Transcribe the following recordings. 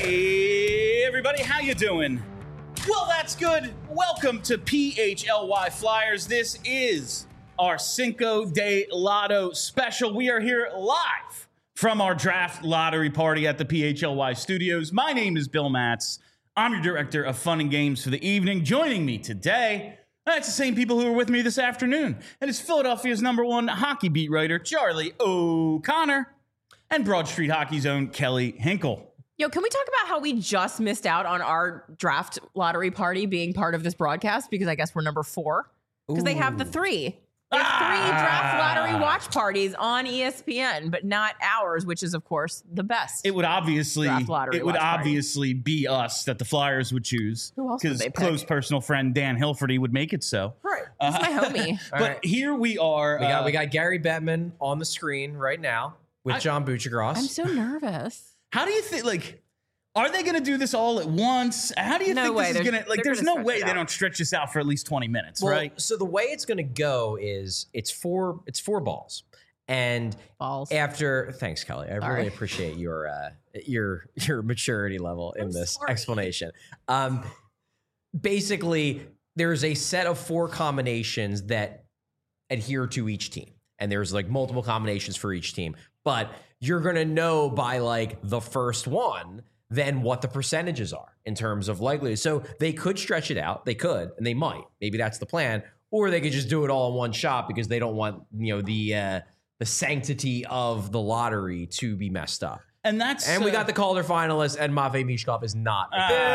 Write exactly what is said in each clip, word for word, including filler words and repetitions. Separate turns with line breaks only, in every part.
Hey, everybody, how you doing? Well, that's good. Welcome to P H L Y Flyers. This is our Cinco de Lotto special. We are here live from our draft lottery party at the P H L Y studios. My name is Bill Matz. I'm your director of fun and games for the evening. Joining me today, that's the same people who were with me this afternoon. And it's Philadelphia's number one hockey beat writer, Charlie O'Connor, and Broad Street Hockey's own Kelly Hinkle.
Yo, can we talk about how we just missed out on our draft lottery party being part of this broadcast? Because I guess we're number four. Because they have the three. There's
Ah.
three draft lottery watch parties on E S P N, but not ours, which is, of course, the best.
It would obviously
Draft lottery
it would
watch party.
obviously be us that the Flyers would choose.
Who else would
Because
they pick?
close personal friend Dan Hilferty would make it so.
Right. He's my homie.
But
right.
here we are.
We got
uh,
we got Gary Bettman on the screen right now with
I-
John Buccigross.
I'm so nervous.
How do you think, like, are they going to do this all at once? How do you
No
think
way.
this is
They're-
going to, like,
they're
there's
gonna
no
stretch
way
it
they
out.
don't stretch this out for at least twenty minutes,
Well,
right?
So the way it's going to go is it's four it's four balls, and
Balls.
after thanks Kelly, I
Sorry.
really appreciate your uh, your your maturity level in
I'm
this
sorry.
explanation. Um, basically, there's a set of four combinations that adhere to each team, and there's like multiple combinations for each team, but you're going to know by like the first one then what the percentages are in terms of likelihood. So they could stretch it out. They could, and they might. Maybe that's the plan. Or they could just do it all in one shot because they don't want, you know, the uh, the sanctity of the lottery to be messed up.
And that's
And we
uh,
got the Calder finalists, and Matvei Mishkov is not.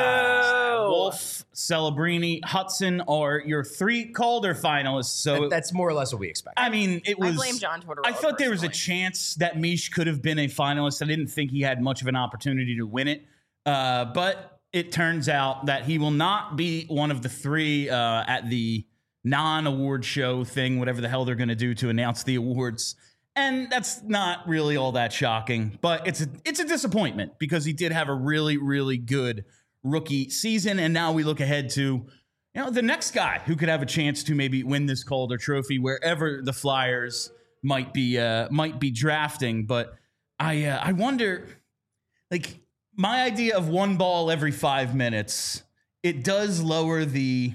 uh, Wolf, Celebrini, Hudson are your three Calder finalists. So
That- that's more or less what we expect.
I mean, it was.
I blame John Tortorella.
I thought there was a
personally.
chance that Mish could have been a finalist. I didn't think he had much of an opportunity to win it, uh, but it turns out that he will not be one of the three uh, at the non-award show thing, whatever the hell they're going to do to announce the awards. And that's not really all that shocking, but it's a, it's a disappointment because he did have a really, really good rookie season. And now we look ahead to, you know, the next guy who could have a chance to maybe win this Calder Trophy wherever the Flyers might be uh, might be drafting. But I uh, I wonder, like, my idea of one ball every five minutes, it does lower the,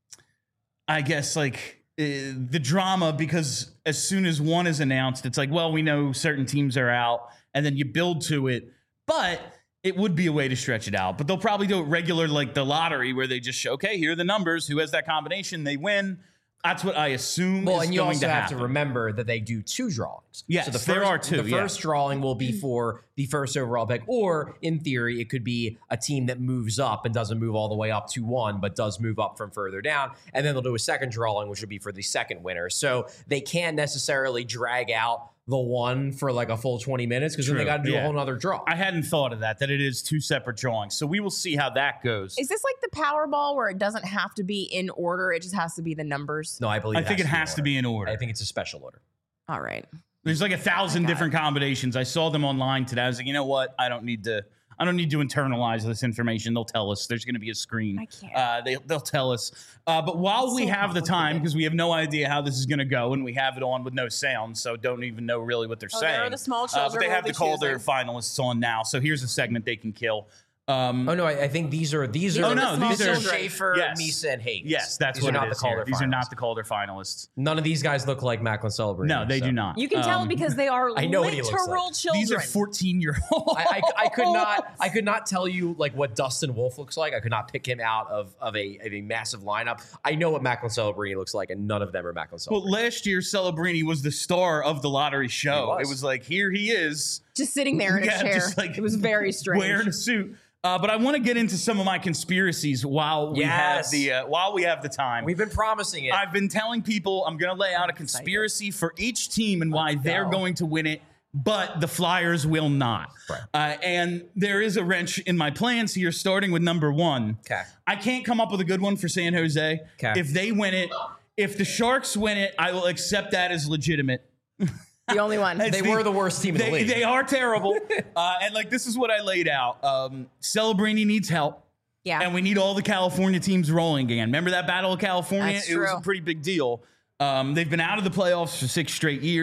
I guess, like, uh, the drama, because as soon as one is announced, it's like, well, we know certain teams are out, and then you build to it. But it would be a way to stretch it out. But they'll probably do it regular, like the lottery, where they just show, okay, here are the numbers. Who has that combination, they win. That's what I assume
Well,
is
and you
going
also
to
have
happen.
to remember that they do two drawings.
Yes,
so the first,
there are two,
The
yeah.
first drawing will be for the first overall pick, or in theory, it could be a team that moves up and doesn't move all the way up to one, but does move up from further down. And then they'll do a second drawing, which would be for the second winner. So they can't necessarily drag out the one for like a full twenty minutes because then they
True,
got to do
yeah.
a whole nother draw.
I hadn't thought of that, that it is two separate drawings. So we will see how that goes.
Is this like the Powerball where it doesn't have to be in order? It just has to be the numbers?
no, I believe
I think it has to be in order.
I think it's a special order.
All right.
There's like a thousand
got
different combinations. I saw them online today. I was like, you know what? I don't need to. I don't need to internalize this information. They'll tell us. There's going to be a screen.
I can't.
Uh, they, they'll tell us. Uh, but while
It's
we
so
have the time,
complicated.
because we have no idea how this is going to go, and we have it on with no sound, so don't even know really what they're
Oh,
saying.
there are the small
uh,
children
but they
we'll
have
be
the Calder
choosing.
finalists on now. So here's a segment they can kill. Um,
Oh no, I, I think these are these are.
Oh, no,
the
these
this
are-
is Schaefer,
yes.
Misa, and Hayes.
yes, that's
these
what
are
it
not
is
the Calder
here. These are
finalists.
not the Calder finalists.
None of these guys look like Macklin Celebrini.
No, they
so.
do not.
You can tell
Um,
because they are
I know what he looks
literal
like.
children.
These are fourteen-year-olds.
I, I, I could not I could not tell you like what Dustin Wolf looks like. I could not pick him out of, of a of a massive lineup. I know what Macklin Celebrini looks like, and none of them are Macklin Celebrini.
Well, last year, Celebrini was the star of the lottery show.
He was.
It was like, here he is.
just sitting there in a
Yeah,
chair.
just like
It was very strange.
Wearing a suit. Uh, but I want to get into some of my conspiracies while we
Yes.
have the uh, while we have the time.
We've been promising it.
I've been telling people I'm going to lay out a conspiracy for each team and why they're
no.
going to win it, but the Flyers will not.
Right.
Uh, and there is a wrench in my plans here, starting with number one.
Okay.
I can't come up with a good one for San Jose.
Okay.
If they win it, if the Sharks win it, I will accept that as legitimate.
The only one.
It's
they were the worst team in
They,
the league.
they are terrible. uh, and like, this is what I laid out. Um, Celebrini needs help.
Yeah.
And we need all the California teams rolling again. Remember that Battle of California?
That's
it was a
true.
pretty big deal. Um, they've been out of the playoffs for six straight years.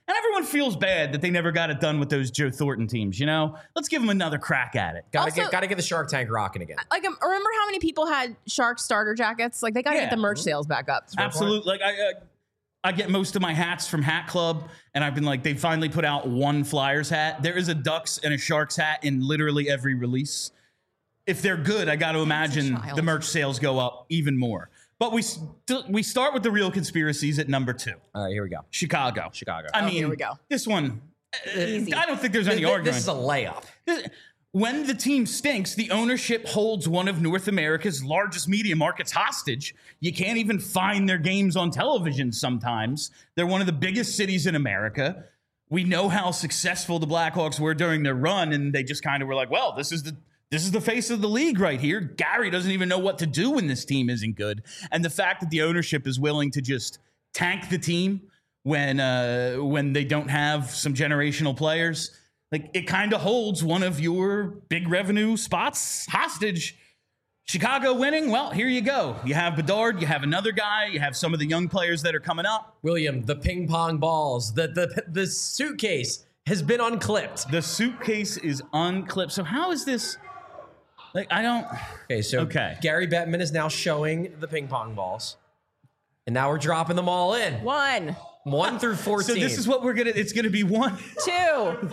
And everyone feels bad that they never got it done with those Joe Thornton teams, you know? Let's give them another crack at it.
Gotta
Also-
get gotta get the Shark Tank rocking again.
Like, um, remember how many people had Shark starter jackets? Like, they got to
Yeah.
get the merch sales back up.
Absolutely. Like I, uh, I get most of my hats from Hat Club, and I've been like, they finally put out one Flyers hat. There is a Ducks and a Sharks hat in literally every release. If they're good, I got to imagine
child.
the merch sales go up even more. But we st- we start with the real conspiracies at number two.
All right, here we go.
Chicago.
Chicago.
I
Oh,
mean,
here we go.
this one, uh,
Easy.
I don't think there's any
Th- th-
argument.
This is a layup.
This- When the team stinks, the ownership holds one of North America's largest media markets hostage. You can't even find their games on television sometimes. They're one of the biggest cities in America. We know how successful the Blackhawks were during their run, and they just kind of were like, well, this is the this is the face of the league right here. Gary doesn't even know what to do when this team isn't good. And the fact that the ownership is willing to just tank the team when uh, when they don't have some generational players, like it kind of holds one of your big revenue spots hostage. Chicago winning, well, here you go. You have Bedard, you have another guy, you have some of the young players that are coming up.
William, the ping pong balls, the the the suitcase has been unclipped.
The suitcase is unclipped. So how is this? Like, I don't.
Okay, so
Okay.
Gary Bettman is now showing the ping pong balls, and now we're dropping them all in,
One,
one through
So
fourteen.
this is what we're gonna. It's gonna be one.
two.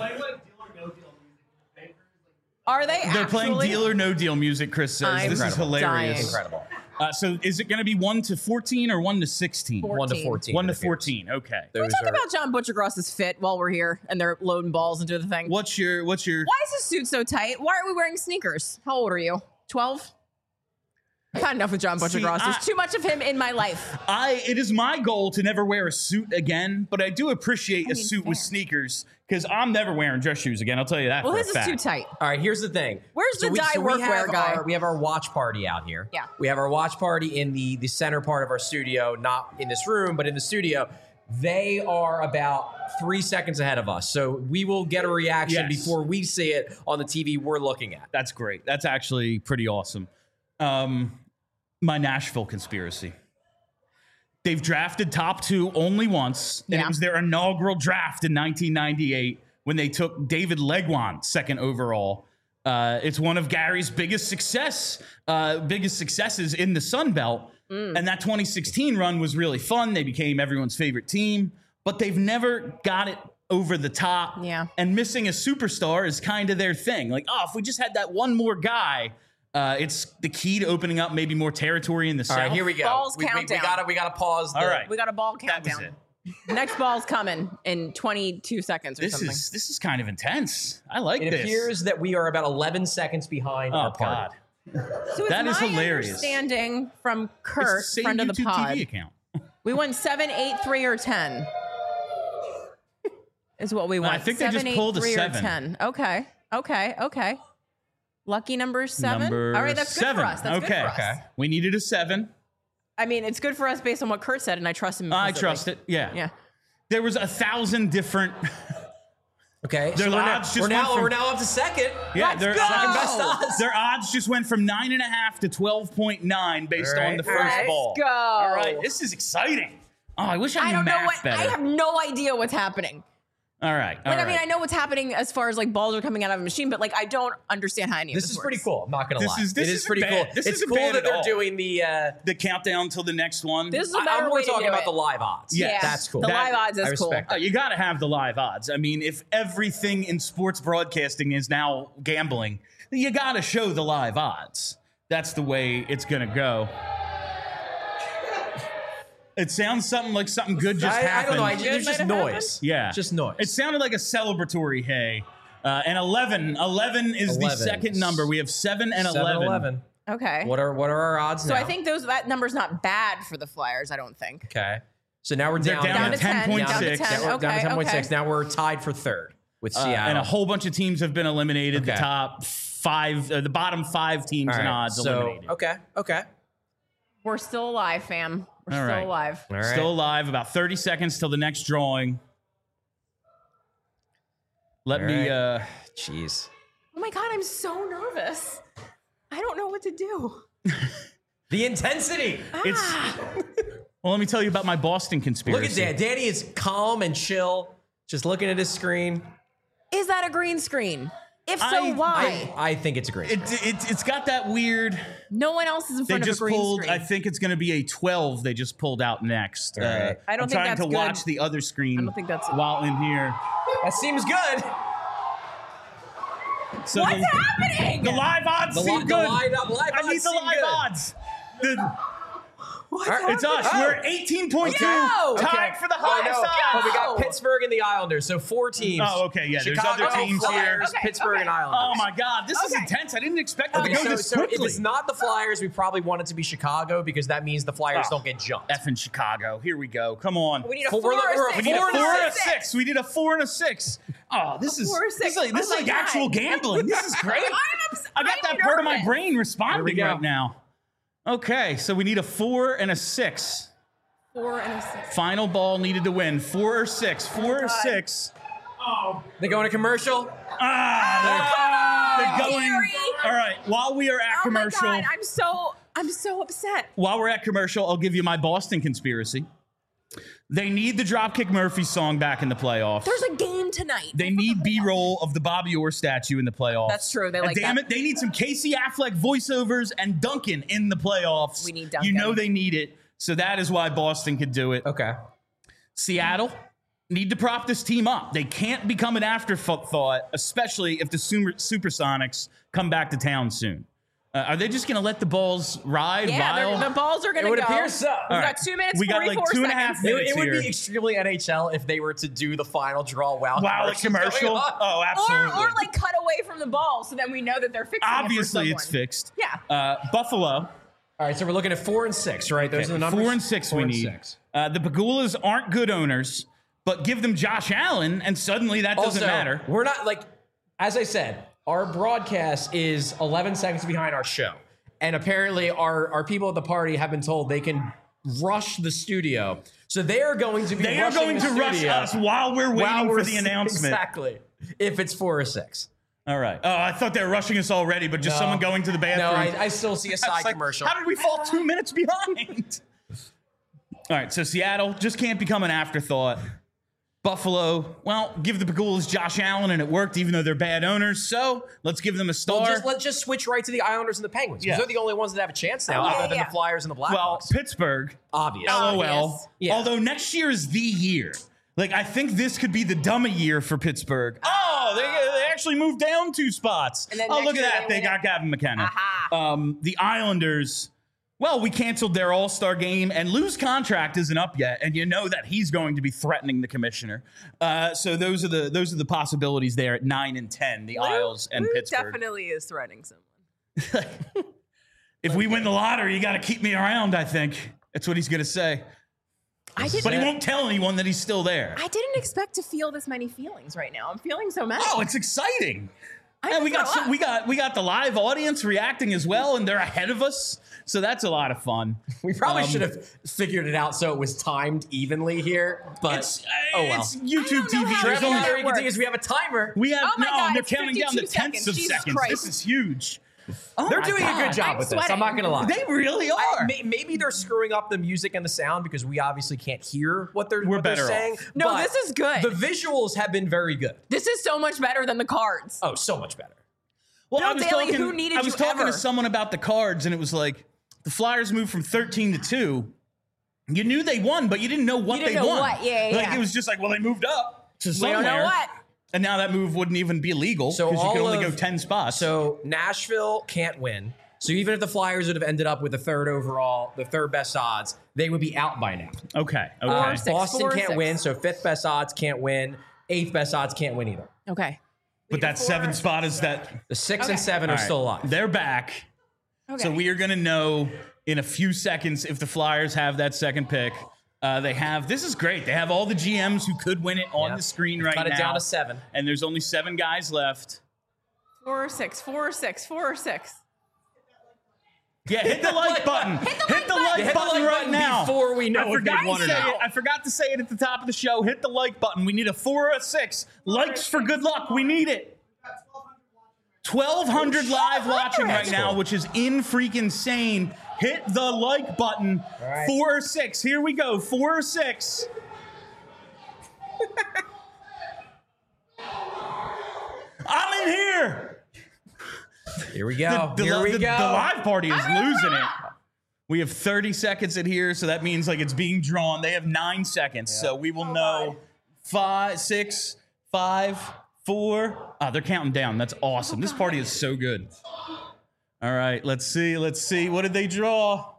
Are they
They're
actually?
playing Deal or No Deal music. Chris says
I'm
this is
Incredible.
hilarious.
dying.
incredible.
Uh, so is it gonna be one to fourteen or one to sixteen?
Four-
One to
fourteen.
fourteen.
One
it
to
appears.
fourteen. Okay.
Those
Talk
are-
about John Butchergross's fit while we're here and they're loading balls into the thing.
What's your? What's your?
Why is his suit so tight? Why are we wearing sneakers? How old are you? twelve? I've had enough with John
See,
Butchergross. There's
I-
too much of him in my life.
I it is my goal to never wear a suit again, but I do appreciate a
mean,
suit with
fair.
sneakers because I'm never wearing dress shoes again. I'll tell you that.
Well,
for
his
a
is
fact.
too tight.
All right, here's the thing.
Where's the dye
we
workwear
have
guy?
Our, we have our watch party out here.
Yeah.
We have our watch party in the, the center part of our studio, not in this room, but in the studio. They are about three seconds ahead of us. So we will get a reaction
Yes.
before we see it on the T V we're looking at.
That's great. That's actually pretty awesome. Um, my Nashville conspiracy. They've drafted top two only once, and
Yeah.
it was their inaugural draft in nineteen ninety-eight when they took David Legwand second overall. Uh, it's one of Gary's biggest success, uh, biggest successes in the Sun Belt. And that twenty sixteen run was really fun. They became everyone's favorite team, but they've never got it over the top.
Yeah.
And missing a superstar is kind of their thing. Like, oh, if we just had that one more guy, uh, it's the key to opening up maybe more territory in the
All
South.
right, here we go.
Balls
we, we, we
countdown.
gotta we gotta pause. The,
All right.
We got a ball
That was
countdown.
it.
Next ball's coming in twenty-two seconds or
This
something.
is this is kind of intense. I like
It
this.
appears that we are about eleven seconds behind
oh
our party.
God,
so
that
it's
is
my
hilarious.
understanding from
It's
Kurt,
the same
friend of the
YouTube
pod,
T V account.
we won seven, eight, three, or ten. Is what we
No, I
want.
think they
seven,
just
eight,
pulled a
three,
seven.
Or ten. Okay. Okay. Okay. Lucky number seven.
Number
All right, that's
seven.
good for us. That's
okay,
good for us.
Okay.
we needed a seven.
I mean, it's good for us based on what Kurt said, and I trust him.
I
implicitly.
trust it. Yeah.
Yeah.
There was a thousand different.
Okay,
Their
so we're now,
odds just
we're,
went
now,
from-
we're now up to second.
Yeah,
Let's
their
go!
Second best odds.
Their odds just went from nine and a half to twelve point nine based
All
on
right.
the first
Let's
ball.
go.
All right, this is exciting. Oh, I wish I knew
I don't know
math
what.
better.
I have no idea what's happening.
all right. all
Like, I mean,
right.
I know what's happening as far as like balls are coming out of a machine, but like, I don't understand how any of
This
this
is
works.
pretty cool. I'm not gonna
This
lie.
is- this
it is
isn't
pretty
bad.
cool.
This
it's
isn't
cool
bad
that
at
they're
all.
doing the. Uh,
the countdown till the next one.
This is a
I,
better
I'm
way
more
to
talking
do
about
it.
the live odds.
Yes.
Yeah,
That's cool.
The
That-
live odds
I
is cool.
respect
Oh, you got to have the live odds. I mean, if everything in sports broadcasting is now gambling, you got to show the live odds. That's the way it's going to go. It sounds something like something good just
I, I
happened.
don't know. I,
Good
there's
might
just
have
noise.
Yeah.
just noise.
It sounded like a celebratory hey. Uh, and eleven. eleven is the
eleven.
second number. We have seven and
Seven,
eleven.
eleven.
Okay.
What are what are our odds
so
now?
I think those that number's not bad for the Flyers. I don't think.
Okay. So now we're
They're
down,
down
Down
to
to ten.
ten point
Down to
six.
ten.
Now we're down to
Okay,
ten point six.
okay.
Now we're tied for third with
Uh,
Seattle.
and a whole bunch of teams have been eliminated. The
Okay.
top five, uh, the bottom five teams
All
in
right,
odds
so,
eliminated.
Okay. Okay.
We're still alive, fam. We're
All
still
right.
alive.
All right.
Still alive. About thirty seconds till the next drawing. Let
All
me.
right.
Uh,
Jeez.
Oh my god, I'm so nervous. I don't know what to do.
The intensity.
it's.
Ah.
Well, let me tell you about my Boston conspiracy.
Look at Dan. Danny is calm and chill. Just looking at his screen.
Is that a green screen? If so,
I-
why?
I think it's a green
It,
screen.
it, it's got that weird.
no one else is in
They
front of a
just
green
pulled.
screen.
I think it's going to be a twelve. They just pulled out next.
All right.
I don't
I'm
think
trying
that's
to
good.
watch the other screen.
I don't think that's-
while in here.
That seems good.
So
What's
the,
happening?
the live odds
The,
seem
li- the
good.
live, live
I need
odds
the
seem
live
good.
odds. The-
What's
All right,
it's us.
Oh.
We're eighteen point two,
Go.
tied
Okay.
for the
Oh,
highest
no.
odds.
Oh, we got
Go.
Pittsburgh and the Islanders, so four teams.
Oh, okay, yeah, there's
Chicago,
other teams
Flyers,
here.
Okay,
Pittsburgh,
okay.
and Islanders.
Oh my God, this is
Okay.
intense. I didn't expect it
Okay,
to go
so,
this
so if
quickly.
it's not the Flyers, we probably want it to be Chicago because that means the Flyers
Oh.
don't get jumped.
Effing Chicago. Here we go. Come on.
We need a
Four-
four,
we're-
or
we're-
six.
We need a
Four
four
and a
and a six. We need a four and a six. Oh, this is
Four or
this
six.
is like, this is
Oh
like
my
actual
God.
gambling. This is great.
I'm ups-
I got
I'm
that part of my
nervous.
brain
Here we
responding
go.
right now. Okay, so we need a four and a six.
Four and a six.
Final ball needed to win. Four or six. Four or
God.
six.
They go into commercial.
Ah, they're, they're going.
Gary.
All right. While we are at
Oh my
commercial,
God, I'm so I'm so upset.
while we're at commercial, I'll give you my Boston conspiracy. They need the Dropkick Murphy song back in the playoffs.
There's a game tonight.
They need B-roll of the Bobby Orr statue in the playoffs.
That's true. They
And
like
damn
that.
it, they need some Casey Affleck voiceovers and Duncan in the playoffs.
We need
You
Duncan.
know they need it. So that is why Boston could do it.
Okay.
Seattle need to prop this team up. They can't become an afterthought, especially if the Super- Supersonics come back to town soon. Uh, are they just going to let the balls ride?
Yeah, they're-
while?
the balls are going
It
to
would
go.
appear so.
We've
All
got
right.
two minutes,
We got, like,
forty-four
two and a half
seconds.
It,
minutes.
it would
here.
be extremely N H L if they were to do the final draw while
Wow, the
commercial's
commercial.
going on.
Oh,
Or,
absolutely.
or like cut away from the ball so then we know that they're fixing
Obviously,
it for
it's
someone.
fixed.
Yeah.
Uh, Buffalo.
All right, so we're looking at four and six, right? Those are the numbers.
Four and six
Four
we
and
need.
six.
Uh, the Pagulas aren't good owners, but give them Josh Allen, and suddenly that doesn't
Also,
matter.
We're not like, as I said, our broadcast is eleven seconds behind our show. And apparently our, our people at the party have been told they can rush the studio. So they are going to be
They are
rushing
going
the
to rush
studio
us while we're waiting
while
for
we're-
the announcement.
Exactly. If it's four or six.
All right. Oh, I thought they were rushing us already, but just
No.
someone going to the
No,
bathroom.
I, I still see a
I was
side
like,
commercial.
How did we fall two minutes behind? All right, so Seattle just can't become an afterthought. Buffalo, well, give the Pagulas Josh Allen, and it worked, even though they're bad owners. So let's give them a star.
Well, just, let's just switch right to the Islanders and the Penguins. Because
Yeah.
they're the only ones that have a chance now,
Oh, yeah,
other than
yeah.
the Flyers and the
well,
Blackhawks.
Pittsburgh,
Obvious.
LOL.
Obvious.
Yeah.
Although next year is the year. Like, I think this could be the dummy year for Pittsburgh. Oh, they, they actually moved down two spots.
And then
Oh,
next
look at
year
that.
they
They
win
got
it.
Gavin McKenna.
Aha.
Um, the Islanders, well, we canceled their all-star game, and Lou's contract isn't up yet, and you know that he's going to be threatening the commissioner. Uh, so those are the those are the possibilities there at nine and ten, the Isles and
Lou
Pittsburgh.
definitely is threatening someone.
If we win the lottery, you got to keep me around, I think. That's what he's going to say.
I didn't.
But he won't tell anyone that he's still there.
I didn't expect to feel this many feelings right now. I'm feeling so mad.
Oh, it's exciting.
I
And we
throw
got some,
up.
we got we got the live audience reacting as well, and they're ahead of us, so that's a lot of fun.
We probably
Um,
should have figured it out so it was timed evenly here. But
It's,
oh well.
it's
I
YouTube
don't know
T V.
how
There's
that
only
Only thing we
works.
can do is we have a timer.
we have
Oh my
no,
God,
and they're
it's
counting down the
fifty-two
tenths of
seconds. Jesus
seconds.
Christ.
This is huge.
They're
my
doing a
God,
good job
I'm
with this. I'm
sweating.
not gonna lie.
They really are.
I- may- maybe they're screwing up the music and the sound because we obviously can't hear what they're,
We're
what they're
better
saying.
off.
No,
but
this is good.
The visuals have been very good.
This is so much better than the cards.
Oh, so much better.
Well,
Bill
I was
Daly,
talking.
who needed
I was
you
talking
ever?
to someone about the cards, and it was like the Flyers moved from thirteen to two. You knew they won, but you didn't know what
You didn't
they
know
won.
what. Yeah, yeah,
Like
yeah.
it was just like, well, they moved up to somewhere.
We don't know what.
And now that move wouldn't even be legal
So
because you could
all
only
of-
go ten spots.
So Nashville can't win. So even if the Flyers would have ended up with the third overall, the third best odds, they would be out by now.
okay, okay.
Um,
six,
Boston
four or
can't
six.
win, so fifth best odds can't win. Eighth best odds can't win either.
Okay.
but that seven spot is that.
The six
Okay.
and seven are
All right,
still alive.
They're back.
Okay.
So we are going to know in a few seconds if the Flyers have that second pick. Uh, they have. This is great. They have all the G Ms who could win it on
Yeah.
the screen right
Cut it
now.
down to seven.
And there's only seven guys left.
Four or six. Four or six. Four or six.
Yeah, hit the like button. Hit
the like button.
like
Hit the
button
like
right
button
now.
before we know
I
if
forgot
they've won
to
or
say
not.
it. I forgot to say it at the top of the show. Hit the like button. We need a four or a six. Likes for good luck. We need it. twelve hundred live watching right
That's
now,
cool.
which is in freaking insane. Hit the like button.
right.
Four or six. Here we go. Four or six.
Here we go.
The,
Here
the,
we
the,
go.
the live party is losing it. We have thirty seconds in here, so that means like it's being drawn. They have nine seconds, yeah. so we will
oh,
know
God.
five, six, five, four. Ah, they're counting down. That's awesome. Oh, this party is so good. All right, let's see. Let's see. What did they draw?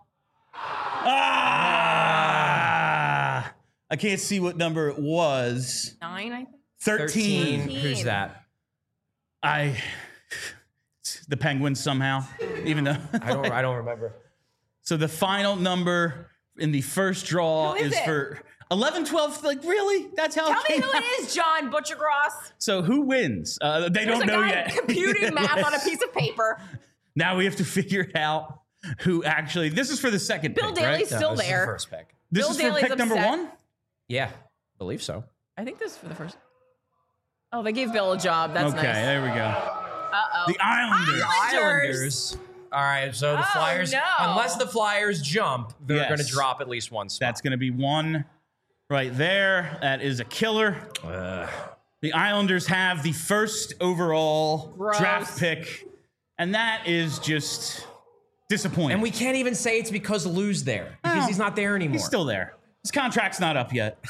Ah! I can't see what number it was.
Nine, I think.
Thirteen.
thirteen. Who's that?
I. The Penguins somehow, even though
I don't. I don't remember.
So the final number in the first draw
Who is
is
it?
for eleven, twelve. Like, really? That's how
Tell
it
me
came
who
out?
it is, John Butchergross.
So who wins? Uh, they
There's
don't
a
know
guy
yet.
computing math on a piece of paper.
Now we have to figure out who actually. This is for the second
Bill
pick,
Daly's
right?
still
No, this is the
there.
first pick.
This
Bill
is for
Daly's
pick number
upset.
one?
Yeah, believe so.
I think this is for the first. Oh, they gave Bill a job. That's
okay,
nice.
there we go.
Uh-oh.
The Islanders.
Islanders.
All right, so the
Oh,
Flyers,
no.
unless the Flyers jump, they're
Yes.
going to drop at least one spot.
That's going to be one right there. That is a killer.
Ugh.
The Islanders have the first overall
Gross.
draft pick, and that is just disappointing.
And we can't even say it's because Lou's there, because
No,
he's not there anymore.
He's still there. His contract's not up yet.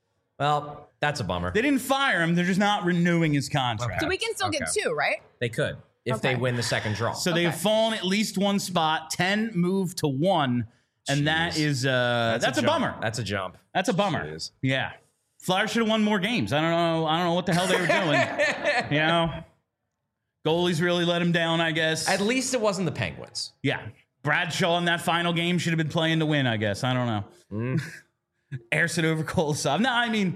Well, that's a bummer.
They didn't fire him. They're just not renewing his contract.
So we can still get
Okay.
two, right?
They could if
Okay.
they win the second draw.
So they have
Okay.
fallen at least one spot. ten moved to one, and that
Jeez.
is uh, that's, a,
jump.
bummer.
That's a jump.
That's a bummer.
Jeez.
Yeah, Flyers should have won more games. I don't know. I don't know what the hell they were doing. You know, goalies really let him down. I guess.
At least it wasn't the Penguins.
Yeah, Bradshaw in that final game should have been playing to win. I guess. I don't know.
Mm.
Erson over Kolosov. No, I mean,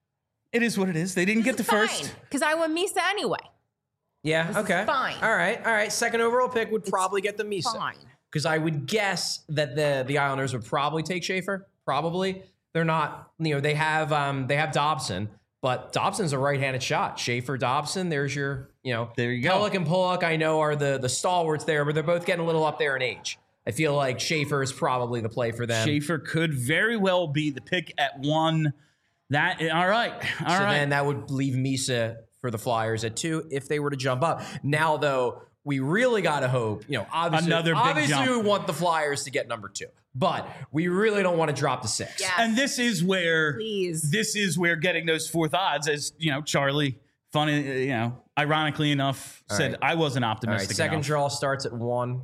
it is what it is. They didn't get the first.
Because I won Misa anyway.
Yeah,
This is
okay.
fine.
All right, all right. Second overall pick would probably get the Misa.
Fine.
Because I would guess that the the Islanders would probably take Schaefer. Probably. They're not, you know, they have um they have Dobson, but Dobson's a right-handed shot. Schaefer, Dobson, there's your, you know,
There you go.
Pellick and Pollock, I know, are the the stalwarts there, but they're both getting a little up there in age. I feel like Schaefer is probably the play for them.
Schaefer could very well be the pick at one. That all right. All
so
right.
then that would leave Misa for the Flyers at two if they were to jump up. Now, though, we really got to hope, you know, obviously,
Another big
obviously
jump.
we want the Flyers to get number two, but we really don't want to drop to six.
Yeah.
And this is where
Please.
this is where getting those fourth odds, as you know, Charlie, funny, uh, you know, ironically enough,
All
said
right.
I wasn't
All right,
optimistic.
second
enough.
draw starts at one.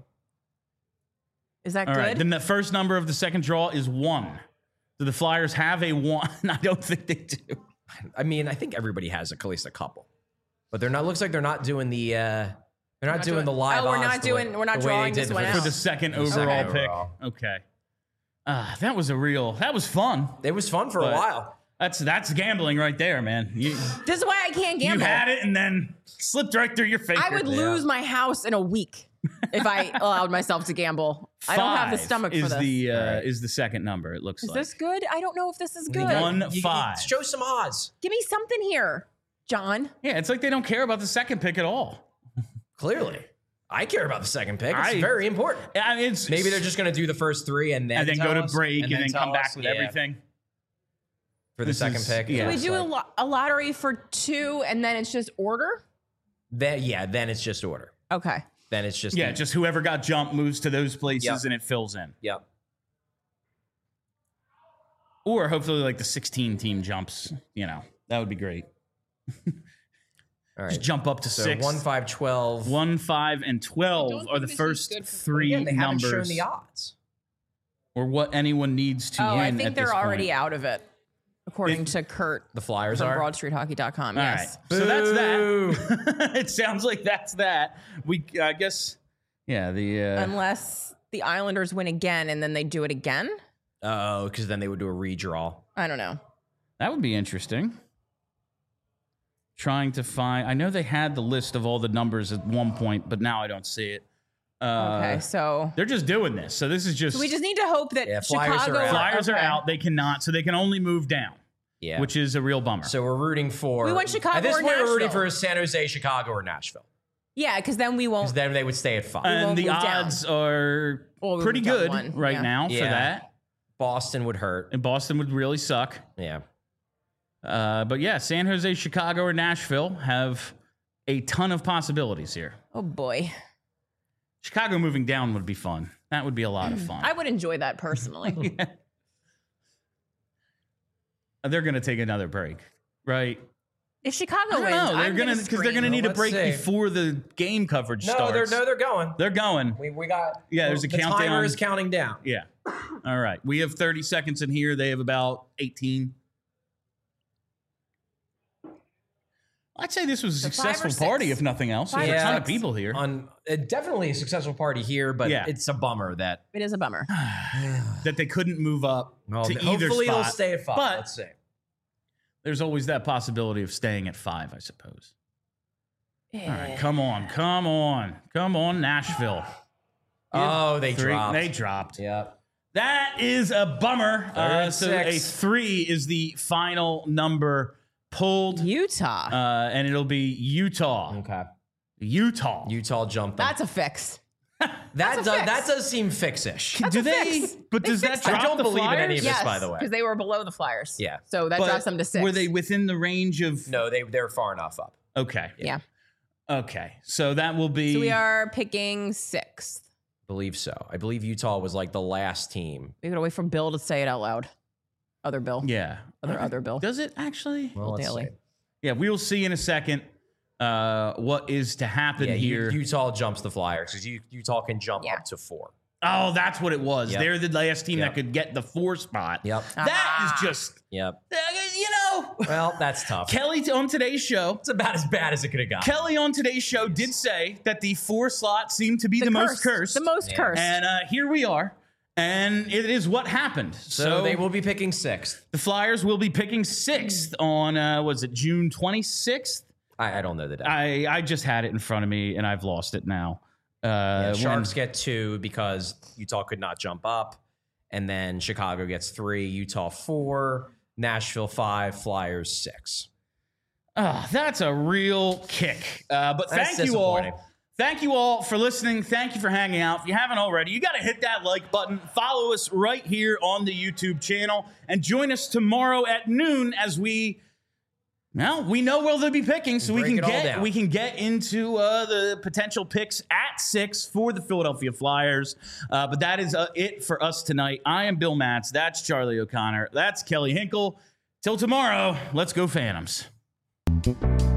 Is that
All
good?
right, then the first number of the second draw is one. Do the Flyers have a one? I don't think they do.
I mean, I think everybody has at least a couple, but they're not. Looks like they're not doing the. Uh, they're not,
not
doing,
doing-
the live.
Oh, we're
odds
not
the way-
doing- we're not
the way they
drawing
did
this
the
one
first-
For the second
The second
overall
overall.
pick. Okay. Ah, that was a real. That was fun.
It was fun for a
But-
while.
That's that's gambling right there, man. You,
This is why I can't
you
gamble.
had it and then slipped right through your finger.
I would lose my house in a week if I allowed myself to gamble. I don't have the
Five
stomach
is
for this.
the uh,
Right.
is the second number. It looks
Is
like
this good? I don't know if this is good.
One
You- you-
five.
Show some odds.
Give me something here, John.
Yeah, it's like they don't care about the second pick at all.
Clearly, I care about the second pick. It's
I-
very important.
I mean, it's
Maybe they're just going to do the first three and then
and then
tell
go to
us,
break and, then,
tell
come back
us.
with
Yeah,
everything
for the
This
second
is-
pick.
yeah.
Can we
It's
do a,
like-
lo- a lottery for two and then it's just order?
Then, yeah, then it's just order.
Okay.
Then it's just
yeah, just whoever got jumped moves to those places
Yep.
and it fills in.
Yep.
Or hopefully like the sixteen team jumps, you know. That would be great.
All right.
Just jump up to
so
six.
one, five, twelve.
One, five, and twelve
don't
are the
think this is
first
good for-
three
Again, they haven't shown
numbers,
the odds.
or what anyone needs to
Oh,
win.
I
at
think they're
this
already
point.
out of it, according
It-
to Kurt
The Flyers
from
are.
broad street hockey dot com.
All
Yes.
right, so that's
Boo.
that. It sounds like that's that. We, I guess, yeah. The uh,
Unless the Islanders win again and then they do it again.
Oh, because then they would do a redraw.
I don't know.
that would be interesting. Trying to find. I know they had the list of all the numbers at one point, but now I don't see it. Uh,
Okay, so
They're just doing this, so this is just.
so we just need to hope that
Yeah, Flyers are
Chicago
out.
Flyers are
okay.
out. They cannot, so they can only move down,
Yeah.
which is a real bummer.
So we're rooting for.
We want Chicago
At this
or
point, we're rooting
Nashville.
for San Jose, Chicago, or Nashville.
Yeah, because then we won't.
Because then they would stay at five.
and
won't
the
move down.
odds are
Well, we
pretty
moved down
good
one,
right
yeah.
now for
Yeah.
that.
Boston would hurt.
And Boston would really suck.
Yeah.
Uh, but yeah, San Jose, Chicago, or Nashville have a ton of possibilities here.
Oh boy.
Chicago moving down would be fun. That would be a lot of fun.
I would enjoy that personally.
Yeah. They're going to take another break, right?
If Chicago
I don't
wins,
know. They're
I'm
gonna
gonna
because they're going to
scream.
need a
Let's
break
see.
before the game coverage
No,
starts.
they're no, they're going.
They're going.
We we got
Yeah, there's a
the
countdown.
timer is counting down.
Yeah. All right. We have thirty seconds in here. They have about eighteen. I'd say this was a
So five or
successful party,
six.
if nothing else.
Five
There's
or
a ton
six.
of people here.
On uh, definitely a successful party here, but
Yeah.
it's a bummer that
It is a bummer.
that they couldn't move up
well,
to
hopefully
either
they'll
spot.
stay at five.
But-
Let's see.
There's always that possibility of staying at five, I suppose. All right,
Yeah.
come on, come on, come on, Nashville.
Oh, they
Three-
dropped.
They dropped.
Yep.
That is a bummer. Uh, so a
six.
three is the final number pulled,
Utah.
uh, and it'll be Utah.
Okay.
Utah.
Utah jumped.
That's a fix.
that
that's a
does
fix.
that does seem fixish.
That's
Do
a
they?
fix.
But
They
does that
fixed
drop
I don't
the
believe in
Flyers?
any of this,
Yes,
by the way.
because they were below the Flyers.
Yeah.
So that
But
drops them to six.
Were they within the range of?
No, they they're far enough up.
Okay.
Yeah.
Okay. So that will be.
So we are picking sixth.
Believe so. I believe Utah was like the last team.
We gotta wait for Bill to say it out loud. Other Bill.
Yeah.
Other other Bill.
Does it actually?
Well, let's
Daily.
see.
Yeah. We'll see in a second. Uh, what is to happen
Yeah, U-
here?
Utah jumps the Flyers because Utah can jump
Yeah.
up to four.
oh, that's what it was.
Yep.
They're the last team
Yep.
that could get the four spot.
Yep.
That
Ah.
is just,
Yep.
uh, you know,
Well, that's tough.
Kelly t- on today's show.
It's about as bad as it could have got.
Kelly on today's show did say that the four slot seemed to be the, most cursed.
The most
Yeah.
cursed.
And uh, here we are. And it is what happened.
So,
So,
they will be picking sixth.
the Flyers will be picking sixth on, uh, was it June twenty-sixth?
I, I don't know the date.
I, I just had it in front of me and I've lost it now. Uh,
Yeah,
when-
Sharks get two because Utah could not jump up. And then Chicago gets three, Utah four, Nashville five, Flyers six.
Ah, that's a real kick. Uh, but
That's
thank you all.
disappointing.
Thank you all for listening. Thank you for hanging out. If you haven't already, you got to hit that like button. Follow us right here on the YouTube channel and join us tomorrow at noon as we. Well, we know where they'll be picking, so we
Break
can
it all
get
down.
we can get into uh, the potential picks at six for the Philadelphia Flyers. Uh, but that is uh, it for us tonight. I am Bill Matz. That's Charlie O'Connor. That's Kelly Hinkle. Till tomorrow, let's go Phantoms.